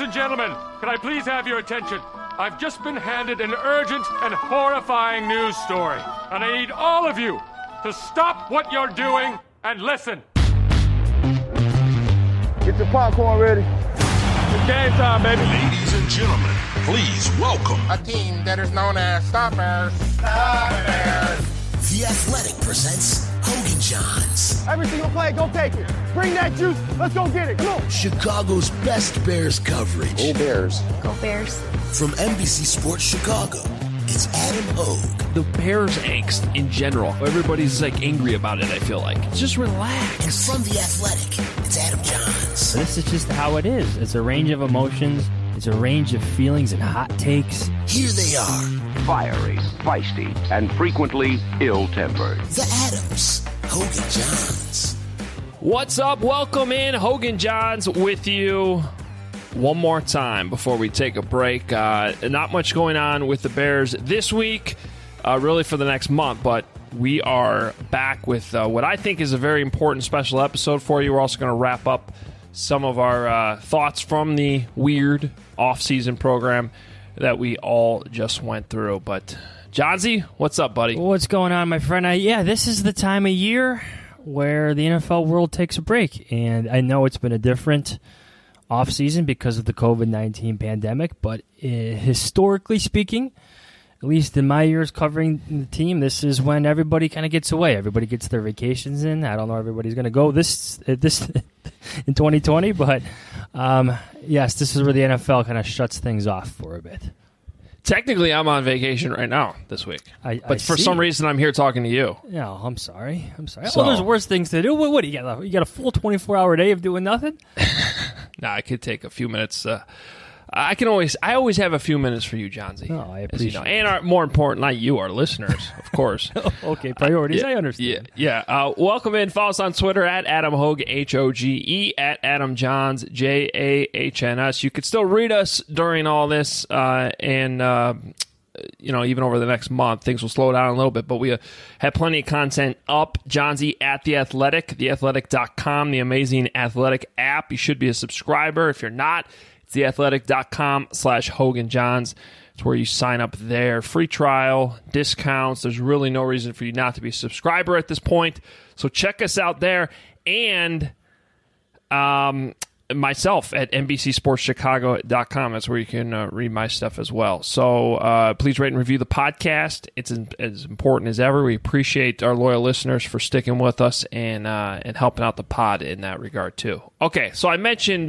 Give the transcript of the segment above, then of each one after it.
and gentlemen, can I please have your attention? I've just been handed an urgent and horrifying news story, and I need all of you to stop what you're doing and listen. Get your popcorn ready. It's game time, baby. Ladies and gentlemen, please welcome a team that is known as Stoppers. The Athletic presents Hogan Johns. Every single play, go take it. Bring that juice. Let's go get it. Come on. Chicago's best Bears coverage. Go Bears. Go Bears. From NBC Sports Chicago, it's Adam Hogue. The Bears angst in general. Everybody's like angry about it, I feel like. Just relax. And from The Athletic, it's Adam Johns. This is just how it is. It's a range of emotions. It's a range of feelings and hot takes. Here they are. Fiery, feisty, and frequently ill-tempered. The Adams. Hogan Johns. What's up? Welcome in. Hogan Johns with you one more time before we take a break. Not much going on with the Bears this week, really for the next month, but we are back with what I think is a very important special episode for you. We're also going to wrap up some of our thoughts from the weird off-season program that we all just went through. But, Johnsy, what's up, buddy? What's going on, my friend? This is the time of year where the NFL world takes a break. And I know it's been a different off-season because of the COVID-19 pandemic, but historically speaking, at least in my years covering the team, this is when everybody kind of gets away. Everybody gets their vacations in. I don't know everybody's going to go this in 2020, but yes, this is where the NFL kind of shuts things off for a bit. Technically, I'm on vacation right now this week, but for some reason, I'm here talking to you. No, I'm sorry. So, well, there's worse things to do. What do you got? You got a full 24-hour day of doing nothing? Nah, I could take a few minutes. I always have a few minutes for you, Johnsy. Oh, I appreciate it. And more important, not you, our listeners, of course. Okay, priorities, I understand. Yeah. Welcome in. Follow us on Twitter at Adam Hogue, Hoge, at Adam Johns, Jahns. You could still read us during all this, and even over the next month. Things will slow down a little bit, but we have plenty of content up. Johnsy at The Athletic, theathletic.com, the amazing Athletic app. You should be a subscriber. If you're not, theathletic.com/Hogan Johns. It's where you sign up there. Free trial, discounts. There's really no reason for you not to be a subscriber at this point. So check us out there. And myself at NBCSportsChicago.com. That's where you can read my stuff as well. So please rate and review the podcast. It's as important as ever. We appreciate our loyal listeners for sticking with us and helping out the pod in that regard too. Okay, so I mentioned...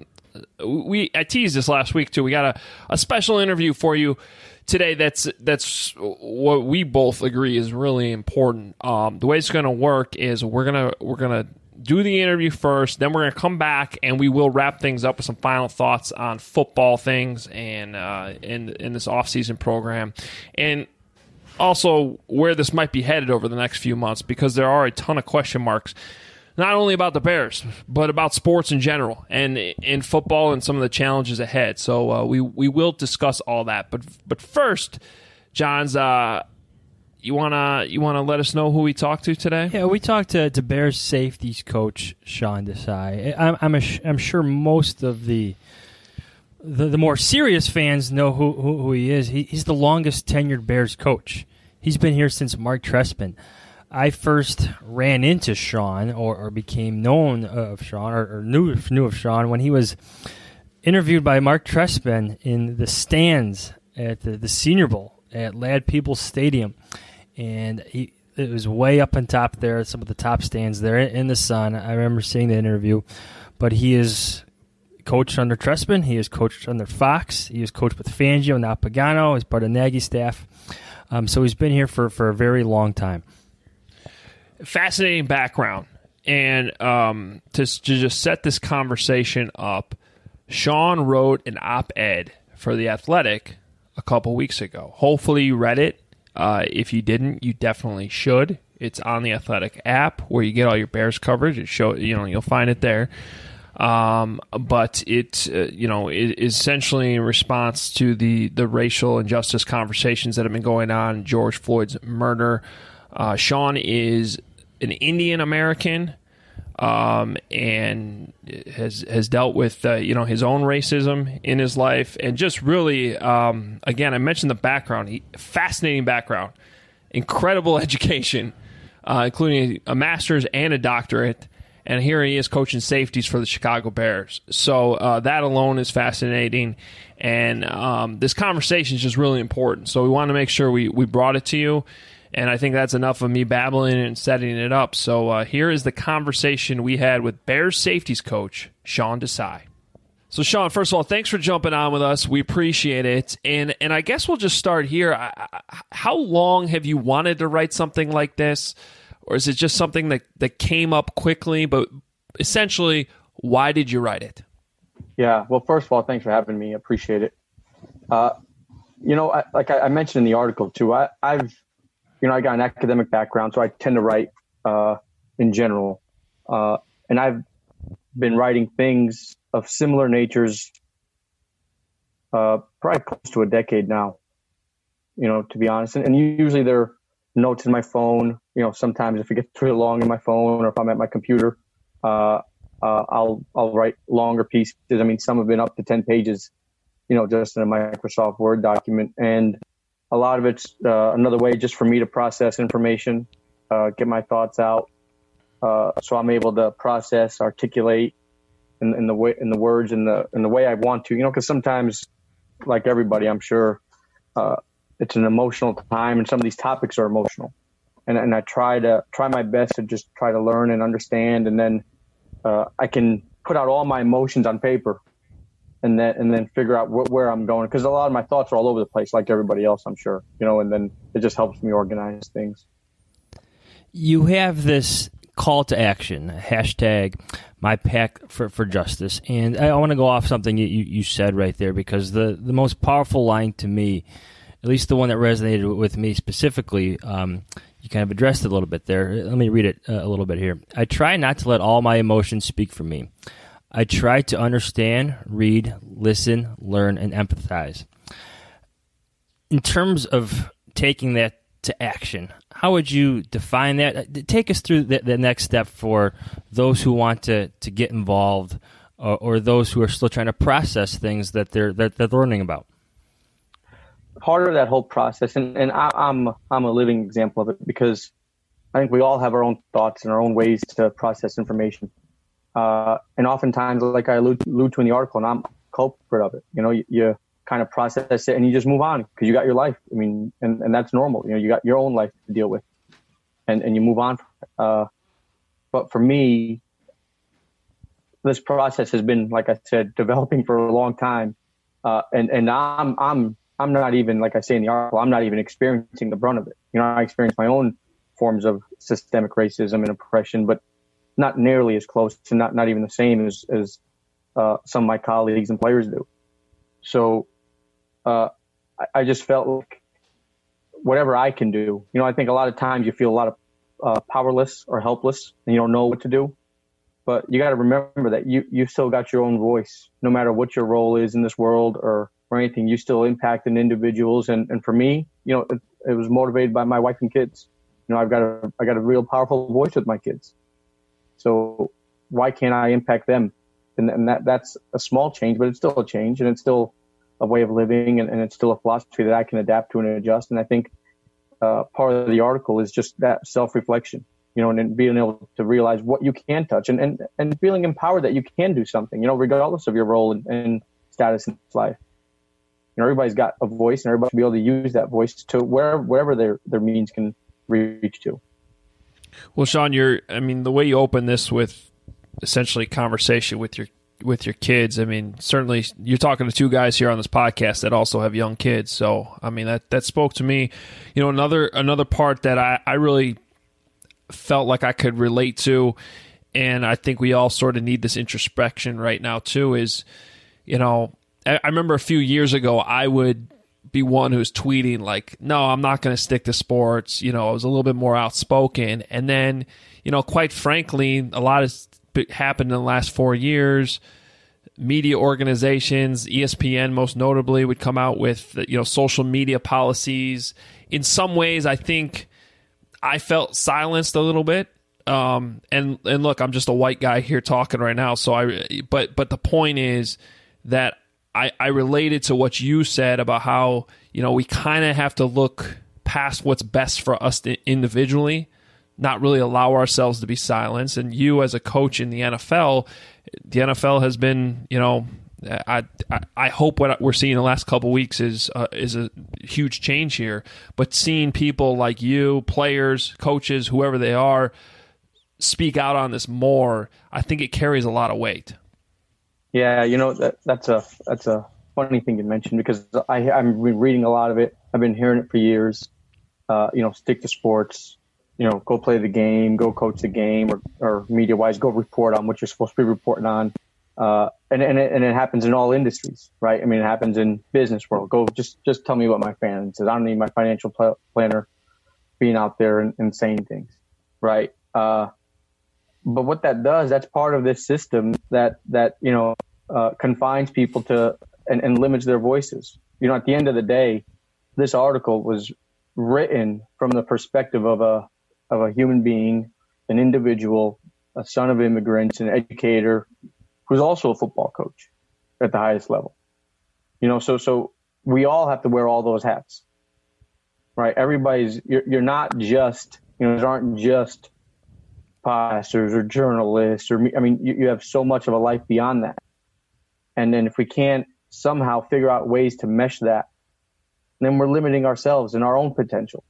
I teased this last week too. We got a special interview for you today. That's what we both agree is really important. The way it's going to work is we're gonna do the interview first, then we're gonna come back and we will wrap things up with some final thoughts on football things and in this off-season program, and also where this might be headed over the next few months, because there are a ton of question marks. Not only about the Bears, but about sports in general and in football and some of the challenges ahead. So we will discuss all that. But first, Johns, you wanna let us know who we talked to today? Yeah, we talked to Bears safeties coach Sean Desai. I'm sure most of the more serious fans know who he is. He's the longest tenured Bears coach. He's been here since Mark Trestman. I first ran into Sean or became known of Sean or knew of Sean when he was interviewed by Mark Trestman in the stands at the Senior Bowl at Ladd Peoples Stadium. And it was way up on top there, some of the top stands there in the sun. I remember seeing the interview. But he is coached under Trestman. He is coached under Fox. He is coached with Fangio, now Pagano. He's part of Nagy's staff. So he's been here for a very long time. Fascinating background. And to just set this conversation up, Sean wrote an op-ed for The Athletic a couple weeks ago. Hopefully you read it. If you didn't, you definitely should. It's on the Athletic app where you get all your Bears coverage. You'll find it there. But it is essentially in response to the racial injustice conversations that have been going on, George Floyd's murder. Sean is an Indian American. and has dealt with his own racism in his life, and just really again, I mentioned the background, fascinating background, incredible education, including a master's and a doctorate. And here he is coaching safeties for the Chicago Bears. So that alone is fascinating. And this conversation is just really important. So we want to make sure we brought it to you. And I think that's enough of me babbling and setting it up. So here is the conversation we had with Bears safeties coach, Sean Desai. So, Sean, first of all, thanks for jumping on with us. We appreciate it. And I guess we'll just start here. How long have you wanted to write something like this? Or is it just something that came up quickly? But essentially, why did you write it? Yeah, well, first of all, thanks for having me. I appreciate it. Like I mentioned in the article, too, I got an academic background, so I tend to write in general. And I've been writing things of similar natures probably close to a decade now, to be honest. And usually they're notes in my phone. Sometimes if it gets too long in my phone or if I'm at my computer, I'll write longer pieces. I mean, some have been up to 10 pages, just in a Microsoft Word document. And a lot of it's another way just for me to process information, get my thoughts out. So I'm able to process, articulate in the words in the way I want to, because sometimes, like everybody, I'm sure, it's an emotional time, and some of these topics are emotional, and I try my best to just try to learn and understand, and then I can put out all my emotions on paper, and then figure out where I'm going, because a lot of my thoughts are all over the place, like everybody else, I'm sure, and then it just helps me organize things. You have this call to action, hashtag #MyPack4Justice, and I want to go off something you said right there, because the most powerful line to me, at least the one that resonated with me specifically, you kind of addressed it a little bit there. Let me read it a little bit here. I try not to let all my emotions speak for me. I try to understand, read, listen, learn, and empathize. In terms of taking that to action, how would you define that? Take us through the next step for those who want to get involved, or those who are still trying to process things that they're learning about. Part of that whole process, and I'm a living example of it, because I think we all have our own thoughts and our own ways to process information. And oftentimes, like I allude to in the article, and I'm a culprit of it. You kind of process it and you just move on because you got your life. I mean, and that's normal. You got your own life to deal with, and you move on. But for me, this process has been, like I said, developing for a long time. And I'm not even, like I say in the article, I'm not even experiencing the brunt of it. I experience my own forms of systemic racism and oppression, but not nearly as close to not even the same as some of my colleagues and players do. So I just felt like whatever I can do, I think a lot of times you feel a lot of powerless or helpless and you don't know what to do. But you got to remember that you still got your own voice, no matter what your role is in this world or anything. You still impact individuals. And for me, it was motivated by my wife and kids. I got a real powerful voice with my kids. So why can't I impact them? And that's a small change, but it's still a change, and it's still a way of living, and it's still a philosophy that I can adapt to and adjust. And I think part of the article is just that self-reflection, and being able to realize what you can touch, and feeling empowered that you can do something, regardless of your role and status in life. Everybody's got a voice, and everybody should be able to use that voice to wherever their means can reach to. Well, Sean, the way you open this with essentially conversation with your kids, certainly you're talking to two guys here on this podcast that also have young kids. So, that spoke to me. Another part that I really felt like I could relate to, and I think we all sort of need this introspection right now too, is, I remember a few years ago, I would be one who's tweeting like, no, I'm not going to stick to sports. I was a little bit more outspoken. And then, quite frankly, a lot has happened in the last 4 years. Media organizations, ESPN most notably, would come out with, social media policies. In some ways, I think I felt silenced a little bit. And look, I'm just a white guy here talking right now. But the point is that I related to what you said about how, we kind of have to look past what's best for us individually, not really allow ourselves to be silenced. And you as a coach in the NFL has been, I hope what we're seeing the last couple of weeks is a huge change here. But seeing people like you, players, coaches, whoever they are, speak out on this more, I think it carries a lot of weight. Yeah, that's a funny thing you mentioned, because I've been reading a lot of it. I've been hearing it for years. Stick to sports. Go play the game, go coach the game, or media-wise, go report on what you're supposed to be reporting on. And it happens in all industries, right? I mean, it happens in business world. Go just tell me what my fan says. I don't need my financial planner being out there and saying things, right? But what that does, that's part of this system that confines people to and limits their voices. At the end of the day, this article was written from the perspective of a human being, an individual, a son of immigrants, an educator, who's also a football coach at the highest level. So we all have to wear all those hats, right? You're not just, there aren't just pastors or journalists you have so much of a life beyond that. And then if we can't somehow figure out ways to mesh that, then we're limiting ourselves and our own potential,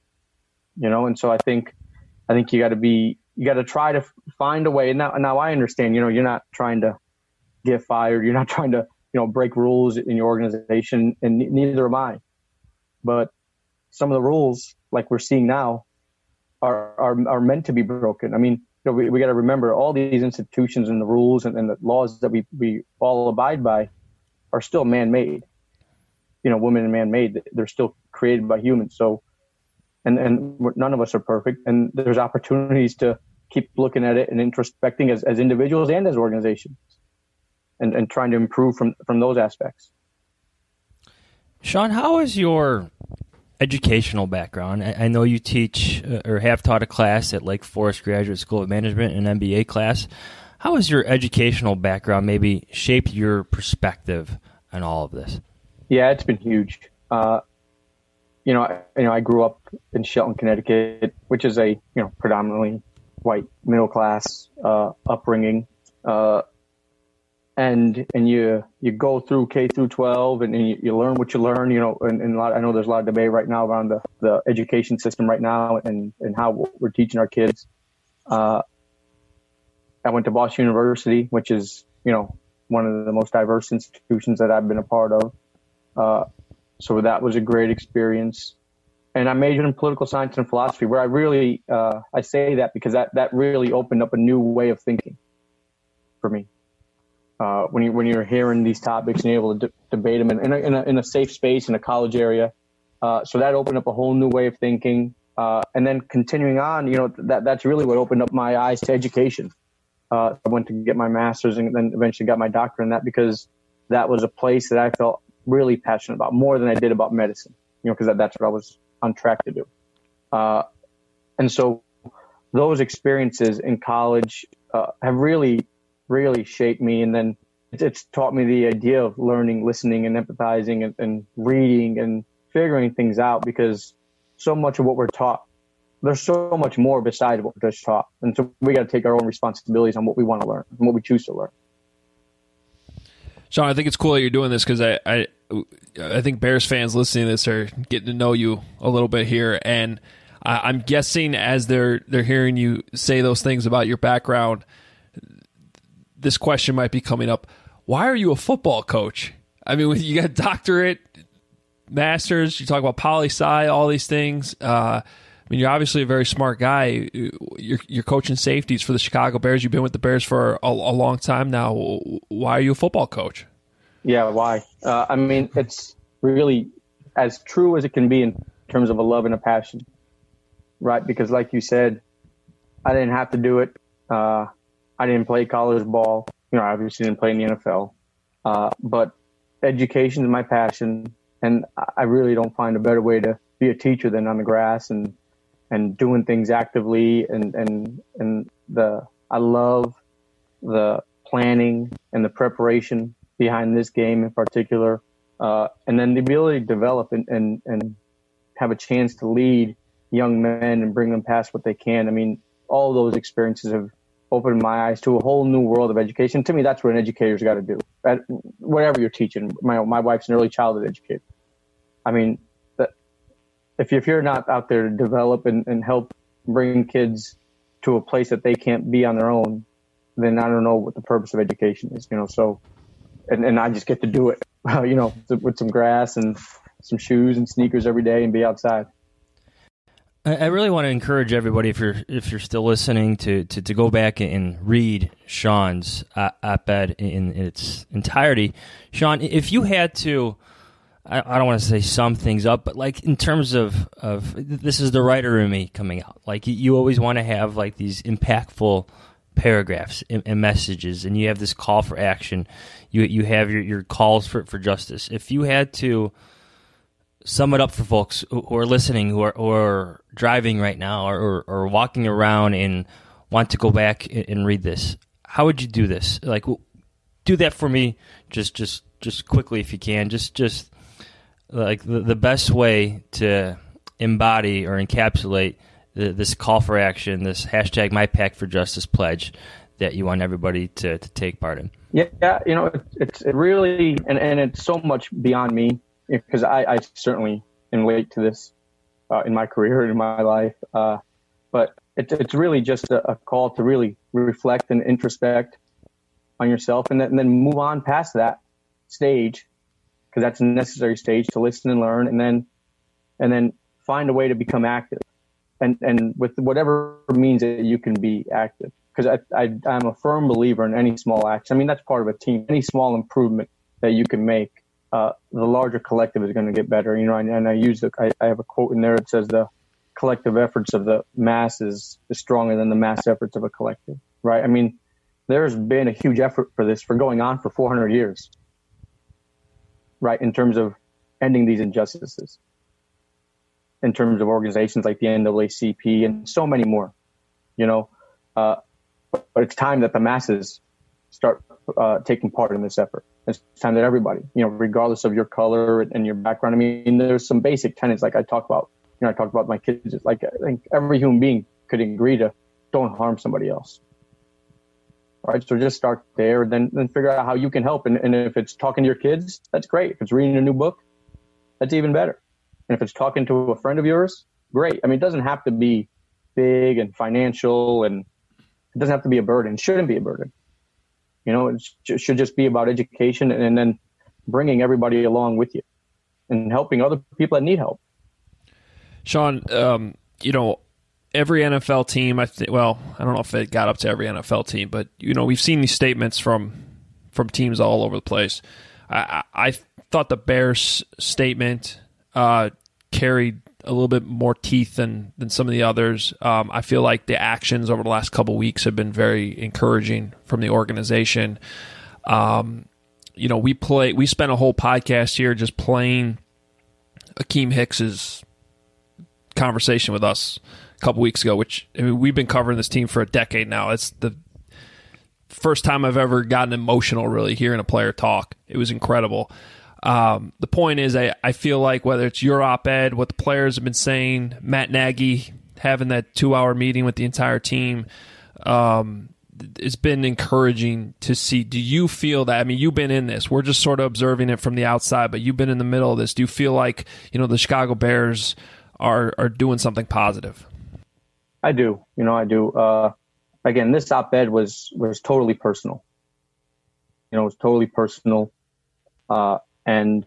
And so I think you got to try to find a way. And now I understand, you're not trying to get fired. You're not trying to, break rules in your organization, and neither am I. But some of the rules, like we're seeing now, are meant to be broken. I mean, we got to remember all these institutions and the rules and the laws that we all abide by are still man-made. Women and man-made. They're still created by humans. So, and none of us are perfect, and there's opportunities to keep looking at it and introspecting as individuals and as organizations, and trying to improve from those aspects. Sean, how is your educational background? I know you teach or have taught a class at Lake Forest Graduate School of Management, an MBA class. How has your educational background maybe shaped your perspective on all of this? Yeah, it's been huge. I grew up in Shelton, Connecticut, which is a predominantly white middle class upbringing, and you go through K through 12, and you learn what you learn. And I know there's a lot of debate right now around the education system right now and how we're teaching our kids. I went to Boston University, which is one of the most diverse institutions that I've been a part of. So that was a great experience. And I majored in political science and philosophy, where I really, I say that because that really opened up a new way of thinking for me. When you're hearing these topics and you're able to debate them in a safe space in a college area. So that opened up a whole new way of thinking. And then continuing on, that's really what opened up my eyes to education. I went to get my master's and then eventually got my doctorate in that, because that was a place that I felt really passionate about, more than I did about medicine, because that's what I was on track to do. And so those experiences in college have really, really shaped me. And then it's taught me the idea of learning, listening, and empathizing and reading and figuring things out, because so much of what we're taught, there's so much more besides what we're just taught. And so we got to take our own responsibilities on what we want to learn and what we choose to learn. Sean, I think it's cool that you're doing this, because I think Bears fans listening to this are getting to know you a little bit here, and I'm guessing as they're hearing you say those things about your background, this question might be coming up: why are you a football coach? I mean, you got a doctorate, master's, you talk about poli-sci, all these things. I mean, you're obviously a very smart guy. You're coaching safeties for the Chicago Bears. You've been with the Bears for a long time now. Why are you a football coach? Yeah, why? I mean, it's really as true as it can be in terms of a love and a passion, right? Because like you said, I didn't have to do it. I didn't play college ball. I obviously didn't play in the NFL. But education is my passion, and I really don't find a better way to be a teacher than on the grass and and doing things actively, and I love the planning and the preparation behind this game in particular, and then the ability to develop and have a chance to lead young men and bring them past what they can. I mean, all those experiences have opened my eyes to a whole new world of education. To me, that's what an educator's got to do. Whatever you're teaching, my wife's an early childhood educator. I mean, if you're not out there to develop and help bring kids to a place that they can't be on their own, then I don't know what the purpose of education is, so, and I just get to do it, with some grass and some shoes and sneakers every day and be outside. I really want to encourage everybody, if you're still listening, to go back and read Sean's op-ed in its entirety. Sean, if you had to, I don't want to say sum things up, but like in terms of this is the writer in me coming out. Like you always want to have like these impactful paragraphs and messages, and you have this call for action. You have your calls for justice. If you had to sum it up for folks who are listening, who are driving right now or walking around and want to go back and read this, how would you do this? Like, do that for me, just quickly if you can. Just like the best way to embody or encapsulate this call for action, this hashtag MyPack4Justice pledge that you want everybody to take part in. Yeah, it's really, and it's so much beyond me, because I certainly am late to this in my career and in my life. But it's really just a call to really reflect and introspect on yourself, and then move on past that stage, because that's a necessary stage to listen and learn, and then find a way to become active, and with whatever means that you can be active. Because I'm a firm believer in any small action. I mean, that's part of a team. Any small improvement that you can make, the larger collective is going to get better. And I have a quote in there that says the collective efforts of the masses is stronger than the mass efforts of a collective, right? I mean, there's been a huge effort for this for going on for 400 years, right? In terms of ending these injustices, in terms of organizations like the NAACP and so many more, but it's time that the masses start taking part in this effort. It's time that everybody, regardless of your color and your background. I mean, there's some basic tenets like I talk about. I talk about my kids. Like, I think every human being could agree to don't harm somebody else. All right, so just start there, then figure out how you can help. And if it's talking to your kids, that's great. If it's reading a new book, that's even better. And if it's talking to a friend of yours, great. I mean, it doesn't have to be big and financial, and it doesn't have to be a burden. It shouldn't be a burden. It should just be about education, and then bringing everybody along with you and helping other people that need help. Sean, every NFL team, I don't know if it got up to every NFL team, but, we've seen these statements from teams all over the place. I thought the Bears statement carried a little bit more teeth than some of the others. I feel like the actions over the last couple of weeks have been very encouraging from the organization. We spent a whole podcast here just playing Akeem Hicks's conversation with us a couple weeks ago, which, I mean, we've been covering this team for a decade now. It's the first time I've ever gotten emotional really hearing a player talk. It was incredible. The point is, I feel like whether it's your op-ed, what the players have been saying, Matt Nagy having that 2-hour meeting with the entire team, it's been encouraging to see. Do you feel that? I mean, you've been in this. We're just sort of observing it from the outside, but you've been in the middle of this. Do you feel like, the Chicago Bears are doing something positive? I do. I do. Again, this op-ed was totally personal. It was totally personal. And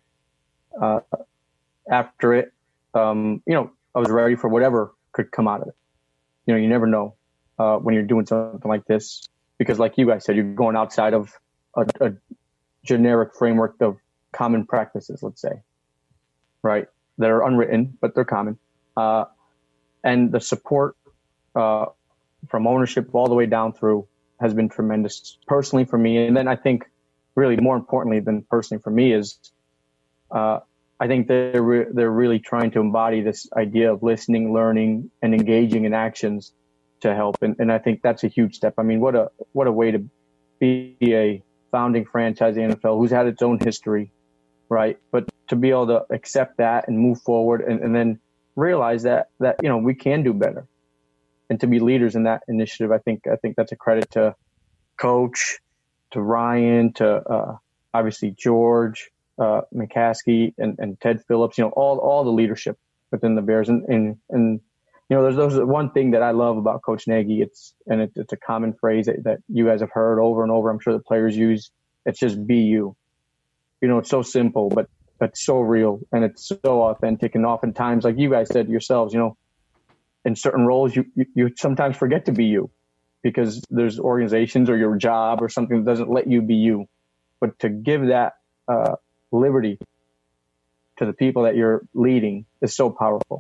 after it, I was ready for whatever could come out of it. You never know when you're doing something like this, because like you guys said, you're going outside of a generic framework of common practices, let's say, right? That are unwritten, but they're common. And the support from ownership all the way down through has been tremendous personally for me. And then I think really more importantly than personally for me is I think they're really trying to embody this idea of listening, learning, and engaging in actions to help. And I think that's a huge step. I mean, what a way to be a founding franchise in the NFL who's had its own history, right? But to be able to accept that and move forward and then realize that we can do better, and to be leaders in that initiative. I think that's a credit to Coach, to Ryan, to obviously George, McCaskey, and Ted Phillips. All the leadership within the Bears, and there's one thing that I love about Coach Nagy. It's a common phrase that you guys have heard over and over. I'm sure the players use. It's just be you. It's so simple, but so real, and it's so authentic. And oftentimes, like you guys said yourselves, in certain roles, you sometimes forget to be you because there's organizations or your job or something that doesn't let you be you. But to give that liberty to the people that you're leading is so powerful.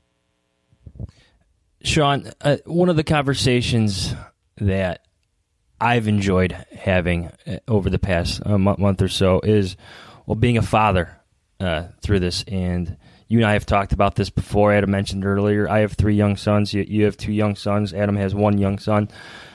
Sean, one of the conversations that I've enjoyed having over the past month or so is, being a father through this. And you and I have talked about this before. Adam mentioned earlier, I have 3 young sons. You have 2 young sons. Adam has 1 young son.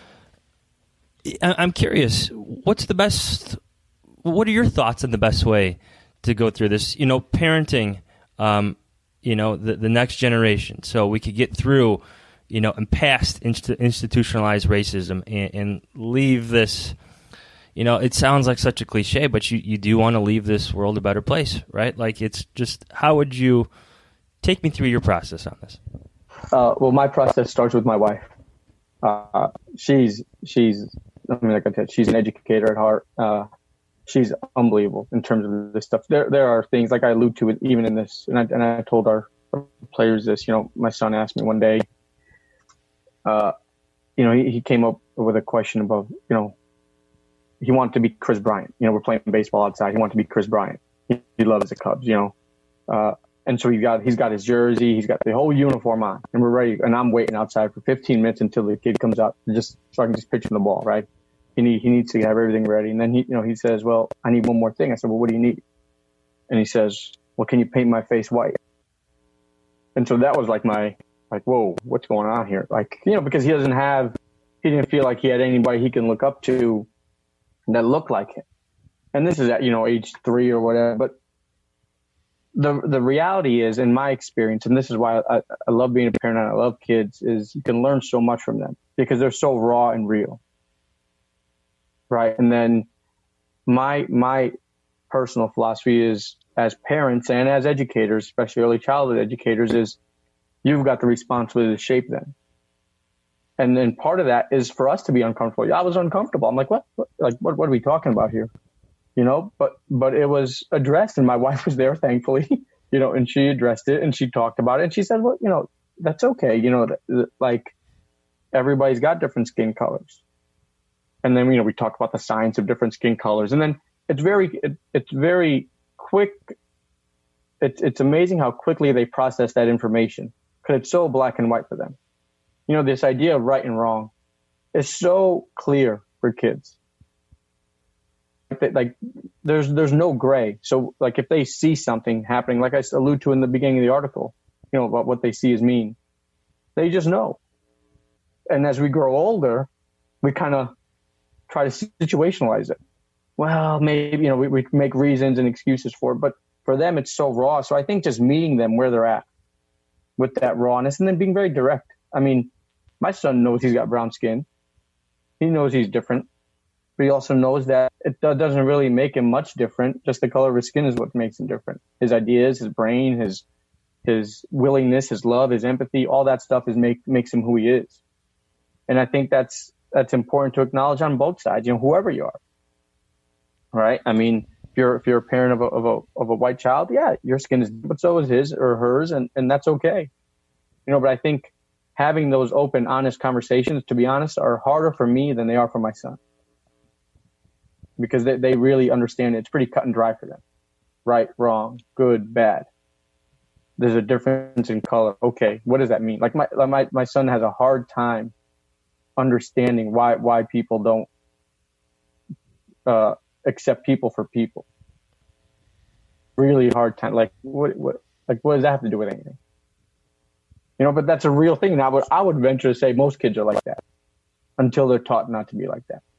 I'm curious, what are your thoughts on the best way to go through this? Parenting, the next generation, so we could get through, and past institutionalized racism and leave this, it sounds like such a cliche, but you do want to leave this world a better place, right? Like, it's just, how would you take me through your process on this? Well, my process starts with my wife. She's like I said, she's an educator at heart. She's unbelievable in terms of this stuff. There are things, like I allude to it even in this, and I told our players this. My son asked me one day. He came up with a question about, he wanted to be Chris Bryant. We're playing baseball outside. He wanted to be Chris Bryant. He loves the Cubs. And so he's got his jersey, he's got the whole uniform on, and we're ready. And I'm waiting outside for 15 minutes until the kid comes out, so I can just pitch him the ball, right? He needs to have everything ready. And then he says, well, I need one more thing. I said, well, what do you need? And he says, well, can you paint my face white? And so that was whoa, what's going on here? Because he didn't feel like he had anybody he can look up to that looked like him. And this is at, age 3 or whatever. But the reality is, in my experience, and this is why I love being a parent and I love kids, is you can learn so much from them because they're so raw and real. Right. And then my personal philosophy is, as parents and as educators, especially early childhood educators, is you've got the responsibility to shape them. And then part of that is for us to be uncomfortable. Yeah, I was uncomfortable. I'm like, what are we talking about here? But it was addressed, and my wife was there, thankfully, and she addressed it and she talked about it. And she said, well, that's okay. Like, everybody's got different skin colors. And then, we talk about the science of different skin colors. And then it's very quick. It's amazing how quickly they process that information, because it's so black and white for them. This idea of right and wrong is so clear for kids. Like, there's no gray. So, like, if they see something happening, like I allude to in the beginning of the article, about what they see as mean, they just know. And as we grow older, we kind of try to situationalize it. Well, maybe, we make reasons and excuses for it, but for them, it's so raw. So I think just meeting them where they're at with that rawness, and then being very direct. I mean, my son knows he's got brown skin. He knows he's different, but he also knows that it doesn't really make him much different. Just the color of his skin is what makes him different. His ideas, his brain, his willingness, his love, his empathy, all that stuff makes him who he is. And I think that's important to acknowledge on both sides, whoever you are. Right? I mean, if you're a parent of a white child, yeah, your skin is, but so is his or hers, and that's okay. But I think having those open, honest conversations, to be honest, are harder for me than they are for my son, because they really understand it. It's pretty cut and dry for them. Right, wrong, good, bad. There's a difference in color. Okay, what does that mean? Like my son has a hard time understanding why people don't accept people for people. really hard time. Like what does that have to do with anything? But that's a real thing. And I would venture to say most kids are like that until they're taught not to be like that.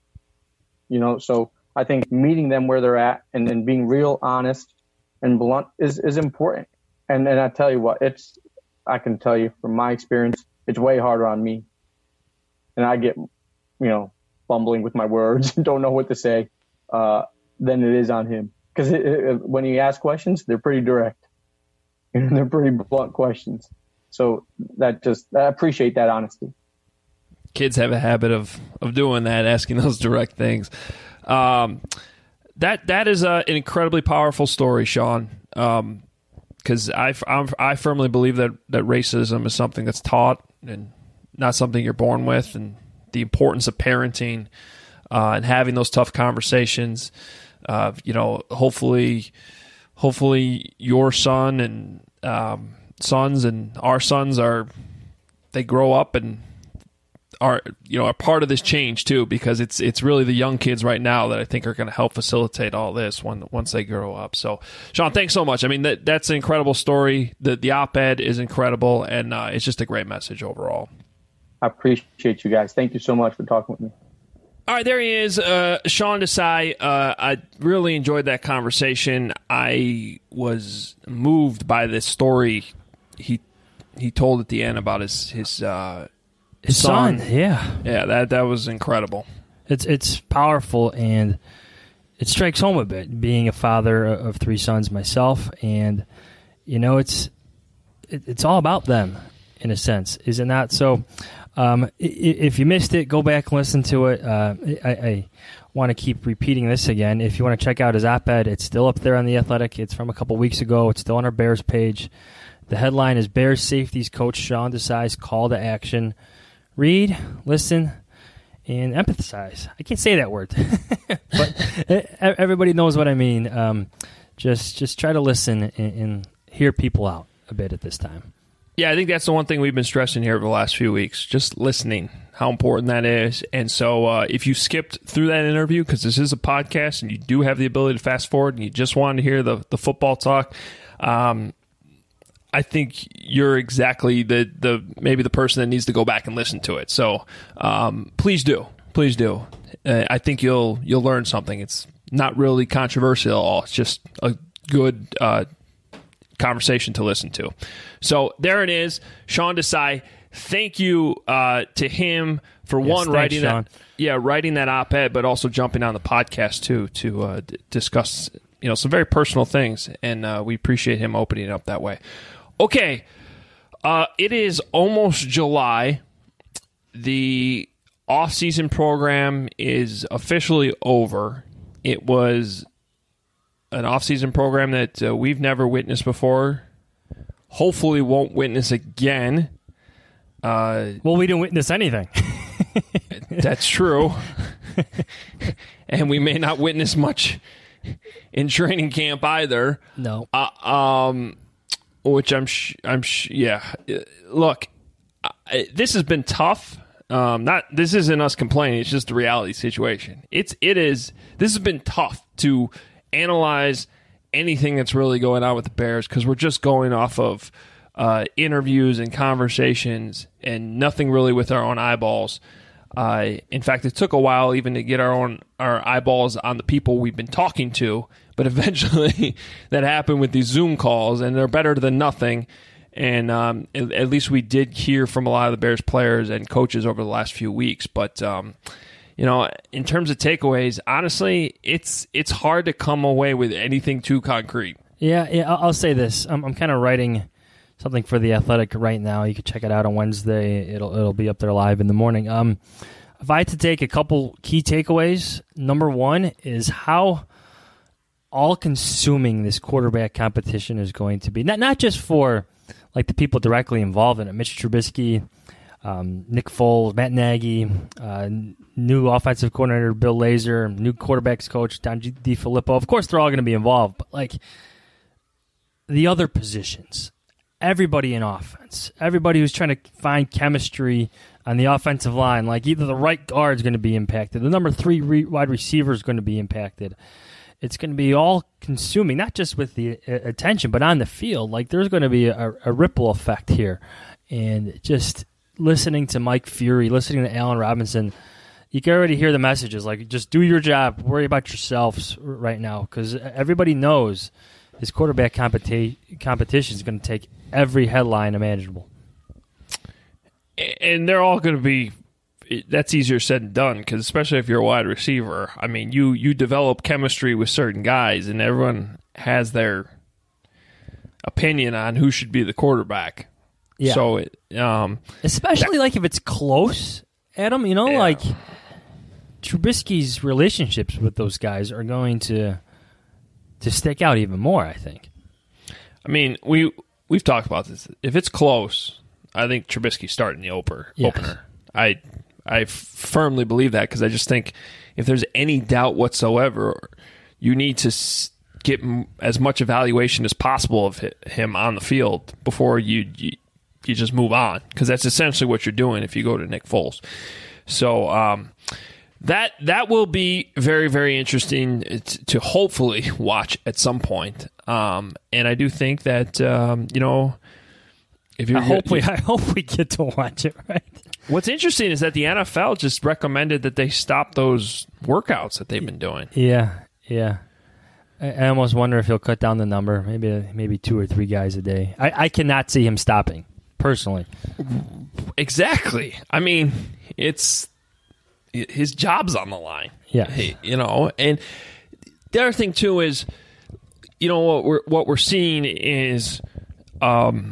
So I think meeting them where they're at and then being real honest and blunt is important. And I tell you what, I can tell you from my experience, it's way harder on me. And I get, fumbling with my words and don't know what to say than it is on him. Because when he asks questions, they're pretty direct. They're pretty blunt questions. So I appreciate that honesty. Kids have a habit of doing that, asking those direct things. That is an incredibly powerful story, Sean. Because I firmly believe that racism is something that's taught and not something you're born with, and the importance of parenting and having those tough conversations. Hopefully your son and sons and our sons they grow up and are part of this change too, because it's really the young kids right now that I think are going to help facilitate all this once they grow up. So, Sean, thanks so much. I mean, that's an incredible story. The op-ed is incredible, and it's just a great message overall. I appreciate you guys. Thank you so much for talking with me. All right, there he is, Sean Desai. I really enjoyed that conversation. I was moved by this story he told at the end about his son. Yeah, that was incredible. It's powerful, and it strikes home a bit. Being a father of 3 sons myself, and it's all about them in a sense, is it not? So, if you missed it, go back and listen to it. I want to keep repeating this again. If you want to check out his op-ed, it's still up there on The Athletic. It's from a couple weeks ago. It's still on our Bears page. The headline is Bears Safeties Coach Sean Desai's Call to Action. Read, listen, and empathize. I can't say that word, but everybody knows what I mean. Just try to listen and hear people out a bit at this time. Yeah, I think that's the one thing we've been stressing here over the last few weeks, just listening, how important that is. And so if you skipped through that interview, because this is a podcast and you do have the ability to fast forward and you just wanted to hear the football talk, I think you're exactly maybe the person that needs to go back and listen to it. So please do. I think you'll learn something. It's not really controversial at all. It's just a good conversation to listen to. So there it is, Sean Desai. Thank you to him for writing that op-ed, but also jumping on the podcast too to discuss some very personal things, and we appreciate him opening it up that way. Okay, it is almost July. The off-season program is officially over. It was an off-season program that we've never witnessed before. Hopefully won't witness again. Well, we didn't witness anything. That's true. And we may not witness much in training camp either. No. Which yeah. Look, this has been tough. This isn't us complaining. It's just the reality situation. This has been tough to analyze anything that's really going on with the Bears, because we're just going off of interviews and conversations and nothing really with our own eyeballs. In fact, it took a while even to get our eyeballs on the people we've been talking to, but eventually that happened with these Zoom calls, and they're better than nothing. And at least we did hear from a lot of the Bears players and coaches over the last few weeks. But in terms of takeaways, honestly, it's hard to come away with anything too concrete. Yeah. I'll say this: I'm kind of writing something for The Athletic right now. You can check it out on Wednesday. It'll be up there live in the morning. If I had to take a couple key takeaways, number one is how all-consuming this quarterback competition is going to be. Not just for like the people directly involved in it, Mitch Trubisky, Nick Foles, Matt Nagy, new offensive coordinator Bill Lazor, new quarterbacks coach Don DeFilippo. Of course, they're all going to be involved, but like the other positions, everybody in offense, everybody who's trying to find chemistry on the offensive line, like either the right guard is going to be impacted, the number 3 wide receiver is going to be impacted. it's going to be all consuming, not just with the attention, but on the field. Like, there's going to be a ripple effect here. And just listening to Mike Fury, listening to Allen Robinson, you can already hear the messages. Like, just do your job, worry about yourselves right now, because everybody knows this quarterback competition is going to take every headline imaginable. And they're all going to be, that's easier said than done, because especially if you're a wide receiver, I mean, you develop chemistry with certain guys, and everyone has their opinion on who should be the quarterback. Yeah. So, especially like if it's close, Adam, you know, like Trubisky's relationships with those guys are going to stick out even more, I think. I mean, we've talked about this. If it's close, I think Trubisky's starting the opener. I firmly believe that, because I just think if there's any doubt whatsoever, you need to get as much evaluation as possible of him on the field before you just move on, because that's essentially what you're doing if you go to Nick Foles. So that will be very, very interesting to hopefully watch at some point. And I do think that if you I hope we get to watch it, right? What's interesting is that the NFL just recommended that they stop those workouts that they've been doing. Yeah. I almost wonder if he'll cut down the number, maybe 2 or 3 guys a day. I cannot see him stopping, personally. Exactly. I mean, it's his job's on the line. Yeah. And the other thing too is, what we're seeing is the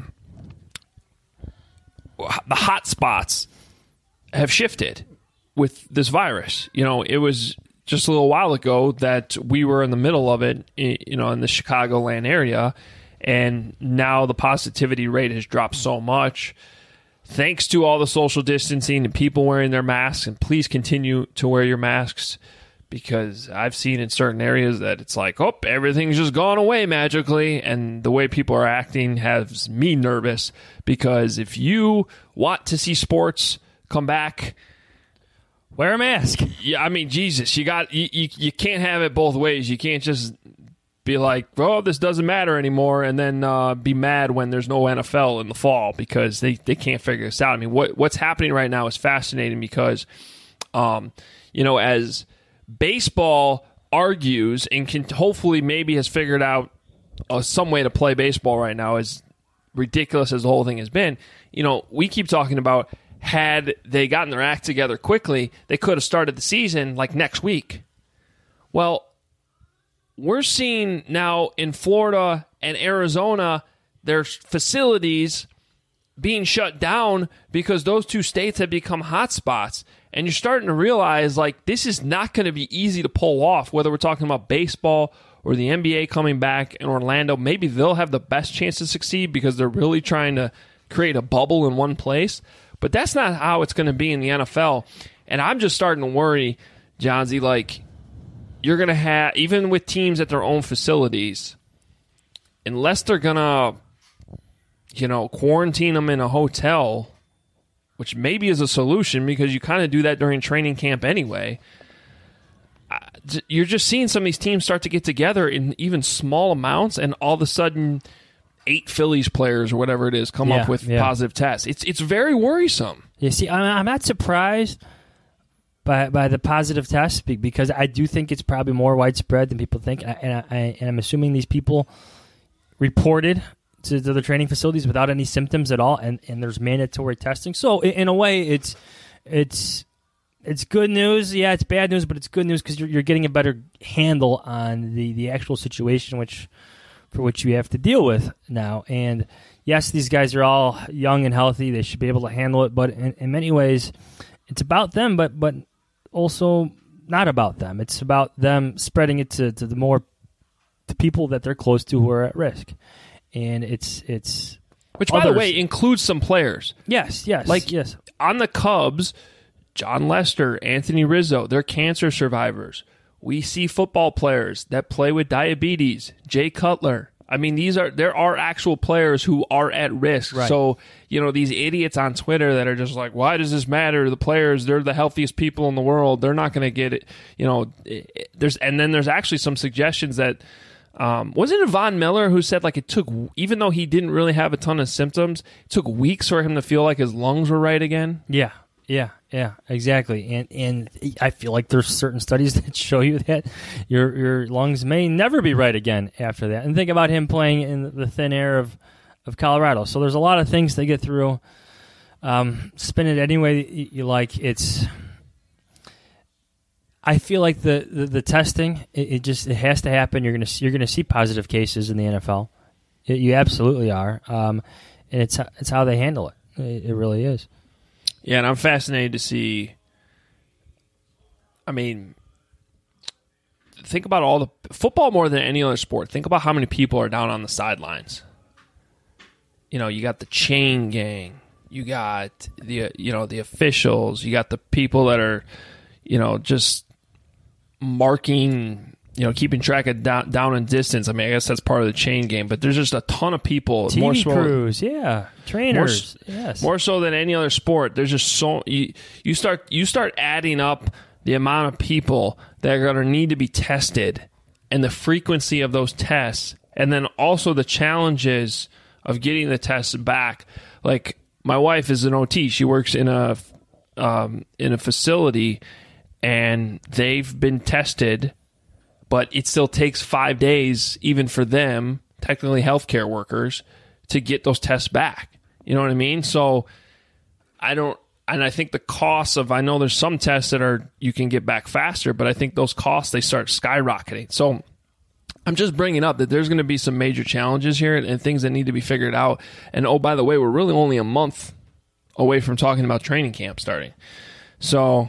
hot spots have shifted with this virus. It was just a little while ago that we were in the middle of it, in the Chicagoland area, and now the positivity rate has dropped so much thanks to all the social distancing and people wearing their masks. And please continue to wear your masks, because I've seen in certain areas that it's like, everything's just gone away magically, and the way people are acting has me nervous, because if you want to see sports come back, wear a mask. Yeah, I mean, Jesus, you can't have it both ways. You can't just be like, this doesn't matter anymore, and then be mad when there's no NFL in the fall, because they can't figure this out. I mean, what's happening right now is fascinating, because, as baseball argues and can hopefully maybe has figured out some way to play baseball right now, as ridiculous as the whole thing has been, we keep talking about, had they gotten their act together quickly, they could have started the season like next week. Well, we're seeing now in Florida and Arizona, their facilities being shut down because those two states have become hotspots. And you're starting to realize, this is not going to be easy to pull off, whether we're talking about baseball or the NBA coming back in Orlando. Maybe they'll have the best chance to succeed because they're really trying to create a bubble in one place. But that's not how it's going to be in the NFL. And I'm just starting to worry, Johnsy, you're going to have, even with teams at their own facilities, unless they're going to, quarantine them in a hotel, which maybe is a solution because you kind of do that during training camp anyway, you're just seeing some of these teams start to get together in even small amounts, and all of a sudden 8 Phillies players or whatever it is come up with positive tests. It's very worrisome. You see, I'm not surprised by the positive tests, because I do think it's probably more widespread than people think, and I'm assuming these people reported to the training facilities without any symptoms at all, and there's mandatory testing. So in a way, it's good news. Yeah, it's bad news, but it's good news because you're getting a better handle on the actual situation for which you have to deal with now. And yes, these guys are all young and healthy. They should be able to handle it, but in many ways, it's about them, but also not about them. It's about them spreading it to the people that they're close to who are at risk. And it's which, by the way, includes some players. Yes. Yes. On the Cubs, John Lester, Anthony Rizzo, they're cancer survivors. We see football players that play with diabetes. Jay Cutler, I mean, there are actual players who are at risk. Right. So, these idiots on Twitter that are just like, why does this matter? The players, they're the healthiest people in the world. They're not going to get it. There's actually some suggestions that, wasn't it Von Miller who said like it took, even though he didn't really have a ton of symptoms, it took weeks for him to feel like his lungs were right again? Yeah, exactly. And I feel like there's certain studies that show you that your lungs may never be right again after that. And think about him playing in the thin air of Colorado. So there's a lot of things to get through. Spin it any way you like. I feel like the testing it has to happen. You're gonna see positive cases in the NFL. You absolutely are. And it's how they handle it. It really is. Yeah, and I'm fascinated to see. I mean, think about all the football more than any other sport. Think about how many people are down on the sidelines. You got the chain gang, you got the officials, you got the people that are, just marking, keeping track of down and distance. I mean, I guess that's part of the chain game, but there's just a ton of people. TV crews, yeah, trainers, yes. More so than any other sport. There's just so you start adding up the amount of people that are going to need to be tested and the frequency of those tests, and then also the challenges of getting the tests back. Like my wife is an OT; she works in a facility, and they've been tested. But it still takes 5 days, even for them, technically healthcare workers, to get those tests back. You know what I mean? So I think the costs of, I know there's some tests that you can get back faster, but I think those costs, they start skyrocketing. So I'm just bringing up that there's going to be some major challenges here and things that need to be figured out. And oh, by the way, we're really only a month away from talking about training camp starting. So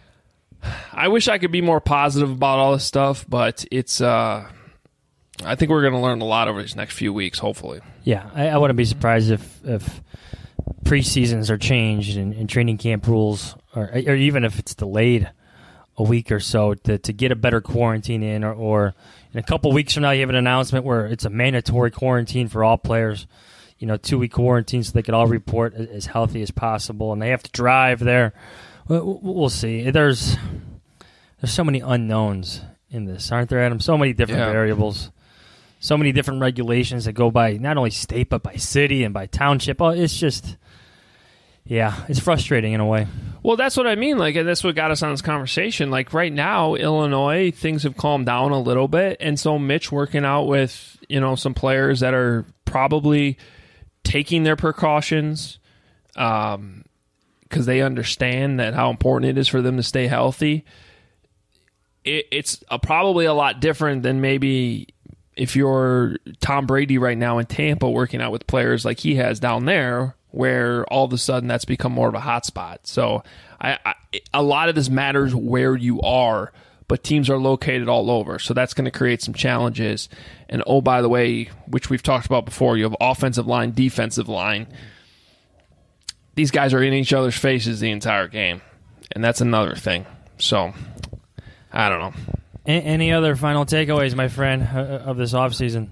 I wish I could be more positive about all this stuff, but it's. I think we're going to learn a lot over these next few weeks, hopefully. Yeah, I wouldn't be surprised if preseasons are changed and training camp rules, or even if it's delayed a week or so to get a better quarantine in, or in a couple weeks from now you have an announcement where it's a mandatory quarantine for all players, 2-week quarantine so they can all report as healthy as possible, and they have to drive there. We'll see. There's so many unknowns in this, aren't there, Adam? So many different variables, so many different regulations that go by not only state but by city and by township. Oh, it's just, it's frustrating in a way. Well, that's what I mean. Like, and that's what got us on this conversation. Like right now, Illinois, things have calmed down a little bit, and so Mitch working out with some players that are probably taking their precautions. Because they understand that how important it is for them to stay healthy. It's probably a lot different than maybe if you're Tom Brady right now in Tampa working out with players like he has down there, where all of a sudden that's become more of a hot spot. So a lot of this matters where you are, but teams are located all over. So that's going to create some challenges. And oh, by the way, which we've talked about before, you have offensive line, defensive line. These guys are in each other's faces the entire game, and that's another thing. So, I don't know. Any other final takeaways, my friend, of this offseason?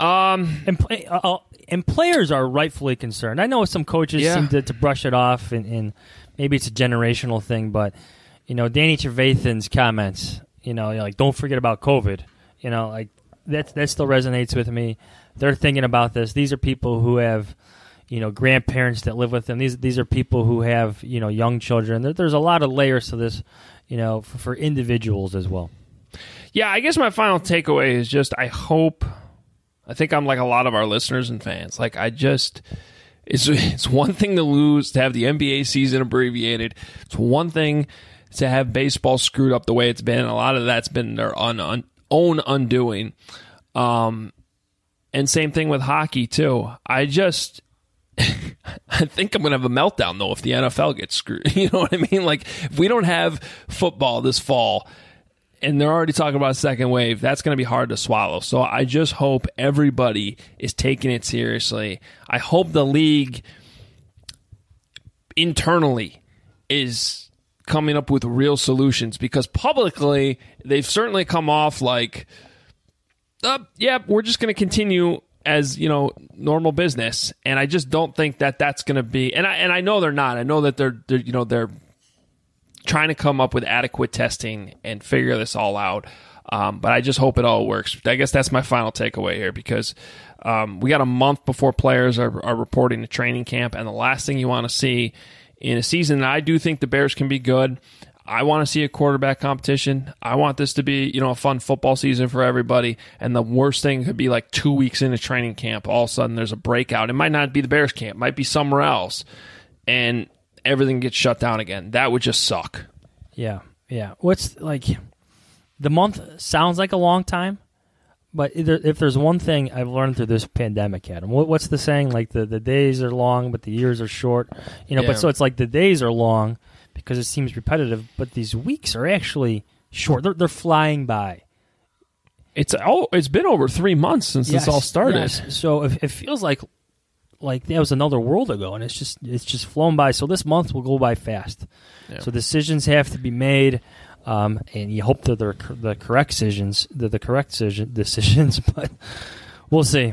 And players are rightfully concerned. I know some coaches seem to brush it off, and maybe it's a generational thing, but, Danny Trevathan's comments, like, don't forget about COVID, like, that still resonates with me. They're thinking about this. These are people who have grandparents that live with them. These are people who have, young children. There's a lot of layers to this, for individuals as well. Yeah, I guess my final takeaway is just I think I'm like a lot of our listeners and fans. Like it's one thing to lose, to have the NBA season abbreviated. It's one thing to have baseball screwed up the way it's been. A lot of that's been their own undoing. And same thing with hockey too. I think I'm going to have a meltdown, though, if the NFL gets screwed. You know what I mean? Like, if we don't have football this fall, and they're already talking about a second wave, that's going to be hard to swallow. So I just hope everybody is taking it seriously. I hope the league internally is coming up with real solutions, because publicly, they've certainly come off like we're just going to continue as, normal business. And I just don't think that that's going to be, and I know they're not. I know that they're trying to come up with adequate testing and figure this all out. But I just hope it all works. I guess that's my final takeaway here, because we got a month before players are reporting to training camp, and the last thing you want to see in a season that I do think the Bears can be good. I want to see a quarterback competition. I want this to be, a fun football season for everybody. And the worst thing could be like 2 weeks into training camp, all of a sudden there's a breakout. It might not be the Bears camp, it might be somewhere else, and everything gets shut down again. That would just suck. Yeah. What's like, the month sounds like a long time, but if there's one thing I've learned through this pandemic, Adam, what's the saying? Like the days are long, but the years are short. But so it's like the days are long because it seems repetitive, but these weeks are actually short. They're flying by. It's been over 3 months since this all started. Yes. So it feels like that was another world ago, and it's just flown by. So this month will go by fast. Yeah. So decisions have to be made, and you hope that they're the correct decisions. Decisions, but we'll see.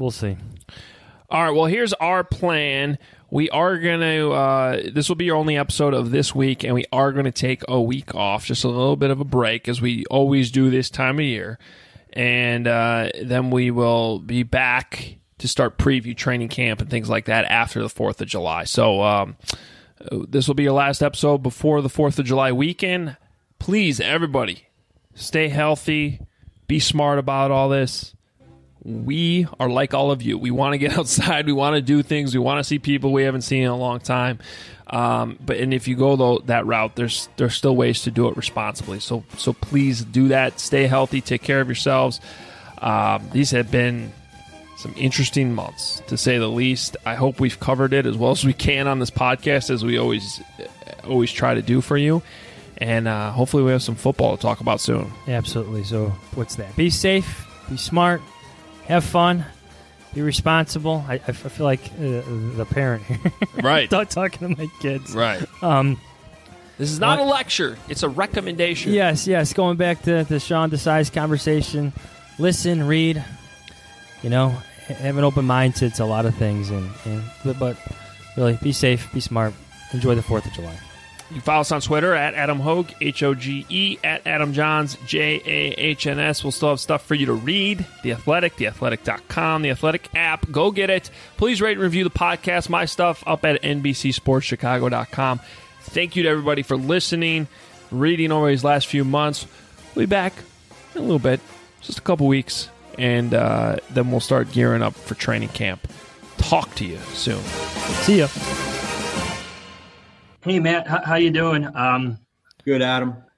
All right. Well, here's our plan. We are going to, this will be our only episode of this week, and we are going to take a week off, just a little bit of a break, as we always do this time of year. And then we will be back to start preview training camp and things like that after the 4th of July. So this will be your last episode before the 4th of July weekend. Please, everybody, stay healthy, be smart about all this. We are like all of you. We want to get outside. We want to do things. We want to see people we haven't seen in a long time. But if you go that route, there's still ways to do it responsibly. So please do that. Stay healthy. Take care of yourselves. These have been some interesting months, to say the least. I hope we've covered it as well as we can on this podcast, as we always try to do for you. And hopefully we have some football to talk about soon. Absolutely. So what's that? Be safe. Be smart. Have fun. Be responsible. I feel like the parent here. Right. Talking to my kids. Right. This is not a lecture. It's a recommendation. Yes. Going back to the Sean Desai's conversation, listen, read, have an open mind to a lot of things. But really, be safe, be smart. Enjoy the 4th of July. You can follow us on Twitter at Adam Hoge, Hoge, at Adam Johns, Jahns. We'll still have stuff for you to read. The Athletic, theathletic.com, the Athletic app. Go get it. Please rate and review the podcast. My stuff up at NBCSportsChicago.com. Thank you to everybody for listening, reading over these last few months. We'll be back in a little bit, just a couple weeks, and then we'll start gearing up for training camp. Talk to you soon. See ya. Hey, Matt, how you doing? Good, Adam.